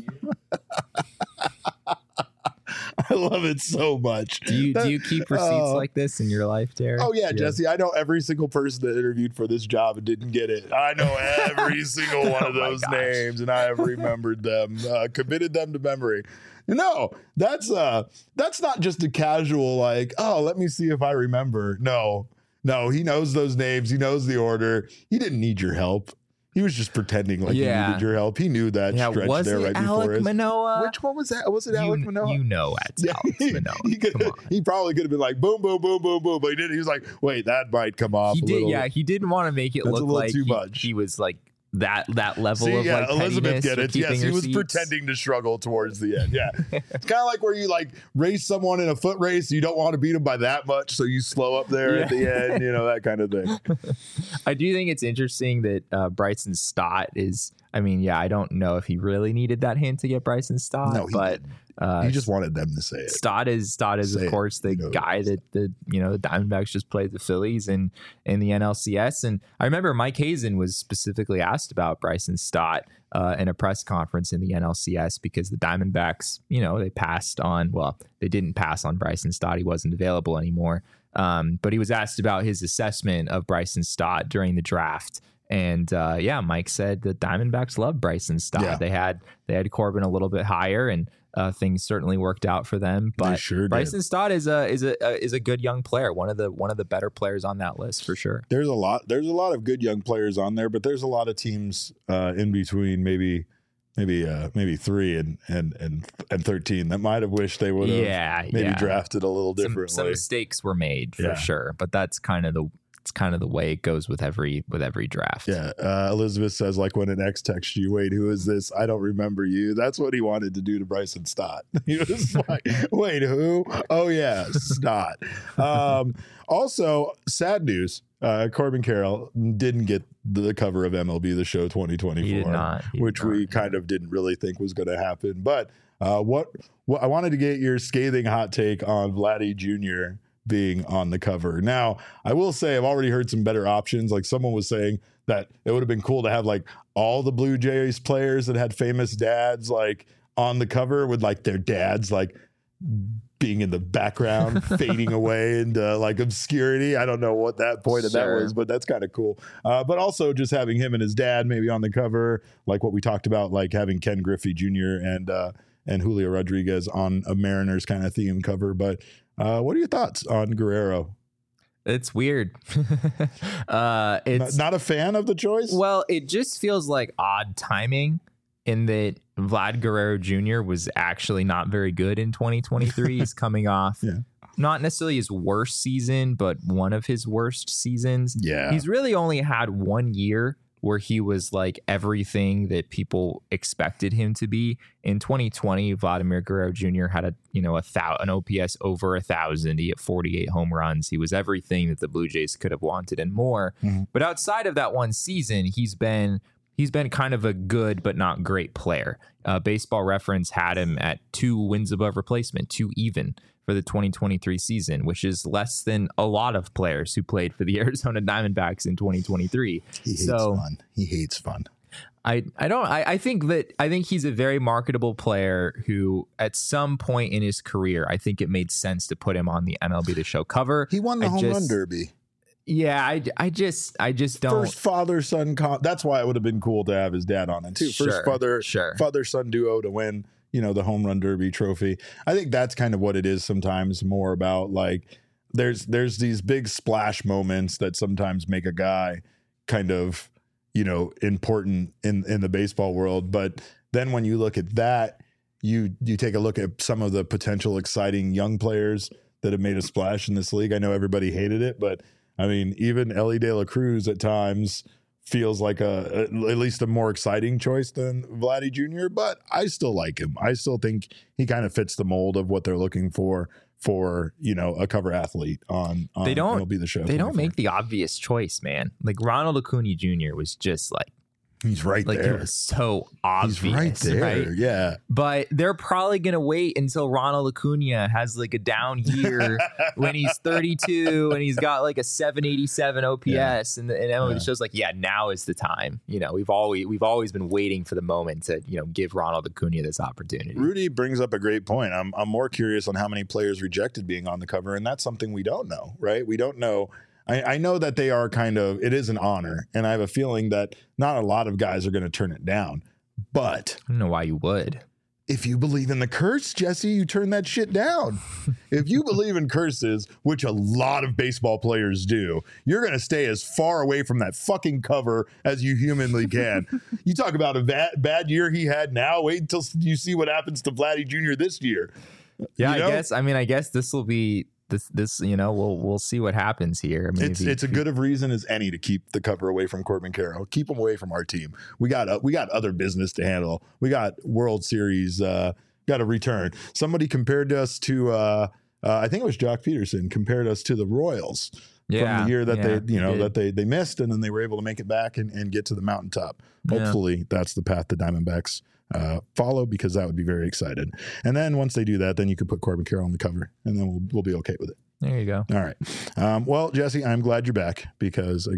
I love it so much. Do you that, do you keep receipts uh, like this in your life, Derek? Oh yeah, Jesse. I know every single person that interviewed for this job and didn't get it. I know every single one of those oh names, and I have remembered them, uh, committed them to memory. No, that's uh, that's not just a casual like, oh, let me see if I remember. No, no, he knows those names. He knows the order. He didn't need your help. He was just pretending like yeah. he needed your help. He knew that yeah, stretch was there it right Alec before his. Manoa? Which one was that? Was it you, Alec Manoa? You know it's yeah, Alex he, Manoa. He, could, he probably could have been like boom, boom, boom, boom, boom, but he didn't. He was like, wait, that might come off. He a did, little. yeah. He didn't want to make it That's look a little like too he, much. he was like that that level See, of yeah, like Elizabeth get it. Yes, he was receipts. pretending to struggle towards the end. Yeah, it's kind of like where you like race someone in a foot race. You don't want to beat them by that much, so you slow up there yeah. at the end. You know, that kind of thing. I do think it's interesting that uh, Bryson Stott is. I mean, yeah, I don't know if he really needed that hint to get Bryson Stott, no, he but uh, he just wanted them to say it. Stott is Stott is say of course it. the guy that the you know the Diamondbacks just played the Phillies in in the N L C S, and I remember Mike Hazen was specifically asked about Bryson Stott uh, in a press conference in the N L C S because the Diamondbacks, you know, they passed on. Well, they didn't pass on Bryson Stott; he wasn't available anymore. Um, but he was asked about his assessment of Bryson Stott during the draft. And uh, yeah, Mike said the Diamondbacks love Bryson Stott. Yeah. They had they had Corbin a little bit higher, and uh, things certainly worked out for them. But they sure Bryson did. Stott is a is a uh, is a good young player. One of the one of the better players on that list for sure. There's a lot. There's a lot of good young players on there, but there's a lot of teams uh, in between. Maybe. Maybe uh, maybe three and, and and and thirteen that might have wished they would have yeah, maybe yeah. drafted a little differently. Some, some mistakes were made for yeah. sure, but that's kind of the it's kind of the way it goes with every with every draft. Yeah. Uh, Elizabeth says, like when an ex texts you, wait, who is this? I don't remember you. That's what he wanted to do to Bryson Stott. He was like, wait, who? Oh, yeah, Stott. Um, also, sad news. Uh, Corbin Carroll didn't get the cover of M L B The Show twenty twenty-four, He did not. He did which not. we kind of didn't really think was going to happen. But uh, what, what I wanted to get your scathing hot take on Vladdy Junior being on the cover. Now, I will say I've already heard some better options. Like someone was saying that it would have been cool to have like all the Blue Jays players that had famous dads like on the cover with like their dads like being in the background, fading away into like obscurity. I don't know what that point of Sure. that was, but that's kind of cool. Uh, but also just having him and his dad maybe on the cover, like what we talked about, like having Ken Griffey Junior and uh, and Julio Rodriguez on a Mariners kind of theme cover. But uh, what are your thoughts on Guerrero? It's weird. uh, it's Not, not a fan of the choice? Well, it just feels like odd timing in that Vlad Guerrero Junior was actually not very good in twenty twenty-three. He's coming off Yeah. not necessarily his worst season, but one of his worst seasons. Yeah. He's really only had one year where he was like everything that people expected him to be. In twenty twenty, Vladimir Guerrero Junior had a, you know, a thou- an O P S over a thousand. He hit forty-eight home runs. He was everything that the Blue Jays could have wanted and more. Mm-hmm. But outside of that one season, he's been he's been kind of a good but not great player. Uh, Baseball Reference had him at two wins above replacement, two even for the twenty twenty-three season, which is less than a lot of players who played for the Arizona Diamondbacks in twenty twenty-three. He hates so fun. He hates fun. I, I don't I, I think that I think he's a very marketable player who at some point in his career, I think it made sense to put him on the M L B The Show cover. He won the I home just, run derby. Yeah, I, I just I just don't First father son. Con- That's why it would have been cool to have his dad on it too. First Sure, father sure. father son duo to win, you know, the home run derby trophy. I think that's kind of what it is sometimes, more about like there's there's these big splash moments that sometimes make a guy kind of, you know, important in in the baseball world. But then when you look at that, you you take a look at some of the potential exciting young players that have made a splash in this league. I know everybody hated it, but I mean, even Ellie De La Cruz at times feels like a, a at least a more exciting choice than Vladdy Junior, but I still like him. I still think he kind of fits the mold of what they're looking for for, you know, a cover athlete on, on they don't M L B The Show. They don't twenty-four. make the obvious choice, man. Like Ronald Acuna Junior was just like He's right like there. it was so obvious, He's right there. right? Yeah. But they're probably going to wait until Ronald Acuna has like a down year when he's thirty-two and he's got like a seven eighty-seven O P S. Yeah. And, and M L B Yeah. show's like, yeah, now is the time. You know, we've always we've always been waiting for the moment to, you know, give Ronald Acuna this opportunity. Rudy brings up a great point. I'm I'm more curious on how many players rejected being on the cover, and that's something we don't know, right? We don't know. I, I know that they are kind of, it is an honor, and I have a feeling that not a lot of guys are going to turn it down. But I don't know why you would. if you believe in the curse, Jesse, you turn that shit down. If you believe in curses, which a lot of baseball players do, you're going to stay as far away from that fucking cover as you humanly can. You talk about a bad, bad year he had now. Wait until you see what happens to Vladdy Junior this year. Yeah, You know? I guess. I mean, I guess this will be this. This, you know, we'll we'll see what happens here. I mean, It's if he- it's a good of reason as any to keep the cover away from Corbin Carroll. Keep him away from our team. We got uh, we got other business to handle. We got World Series. Uh, got a return. Somebody compared us to. Uh, uh, I think it was Jock Peterson compared us to the Royals Yeah, from the year that yeah, they you know he did. that they they missed, and then they were able to make it back and, and get to the mountaintop. Yeah. Hopefully, that's the path the Diamondbacks uh, follow, because that would be very excited. And then once they do that, then you can put Corbin Carroll on the cover, and then we'll we'll be okay with it. There you go. All right. Um, well, Jesse, I'm glad you're back, because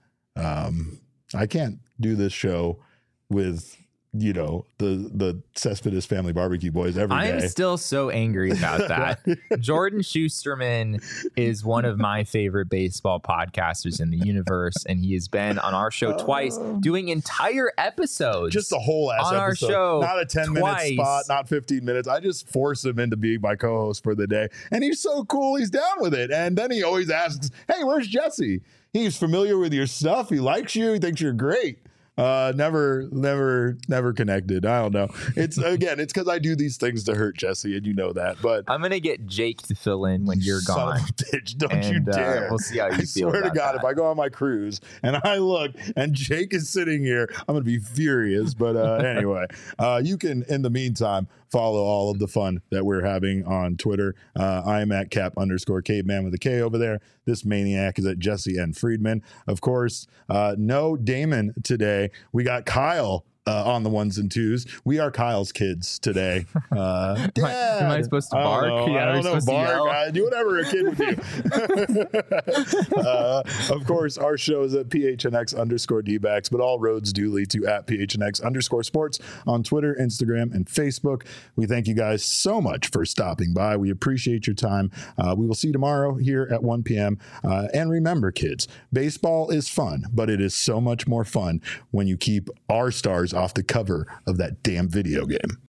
again, um, I can't do this show with, you know, the the Cespedes Family Barbecue Boys every I day. am still so angry about that. Jordan Schusterman is one of my favorite baseball podcasters in the universe, and he has been on our show twice, doing entire episodes. Just a whole ass on our episode. show Not a ten twice. minute spot, not fifteen minutes. I just force him into being my co-host for the day. And he's so cool. He's down with it. And then he always asks, hey, where's Jesse? He's familiar with your stuff. He likes you. He thinks you're great. Uh, never, never, never connected. I don't know. It's again, it's because I do these things to hurt Jesse, and you know that. But I'm gonna get Jake to fill in when you're son gone. Of a bitch, don't and, you dare! Uh, we'll see how you I feel. swear to about God, that. if I go on my cruise and I look and Jake is sitting here, I'm gonna be furious. But uh, anyway, uh, you can, in the meantime, follow all of the fun that we're having on Twitter. Uh, I am at cap underscore caveman with a K over there. This maniac is at Jesse N. Friedman. Of course, uh, no Damon today. We got Kyle uh, on the ones and twos. We are Kyle's kids today. Uh, am, I, am I supposed to I bark? don't know. Yeah, I don't know. Bark. I do whatever a kid would do. uh, of course, our show is at P H N X underscore D-backs, but all roads do lead to at P H N X underscore sports on Twitter, Instagram, and Facebook. We thank you guys so much for stopping by. We appreciate your time. Uh, we will see you tomorrow here at one p.m. Uh, and remember, kids, baseball is fun, but it is so much more fun when you keep our stars off the cover of that damn video game.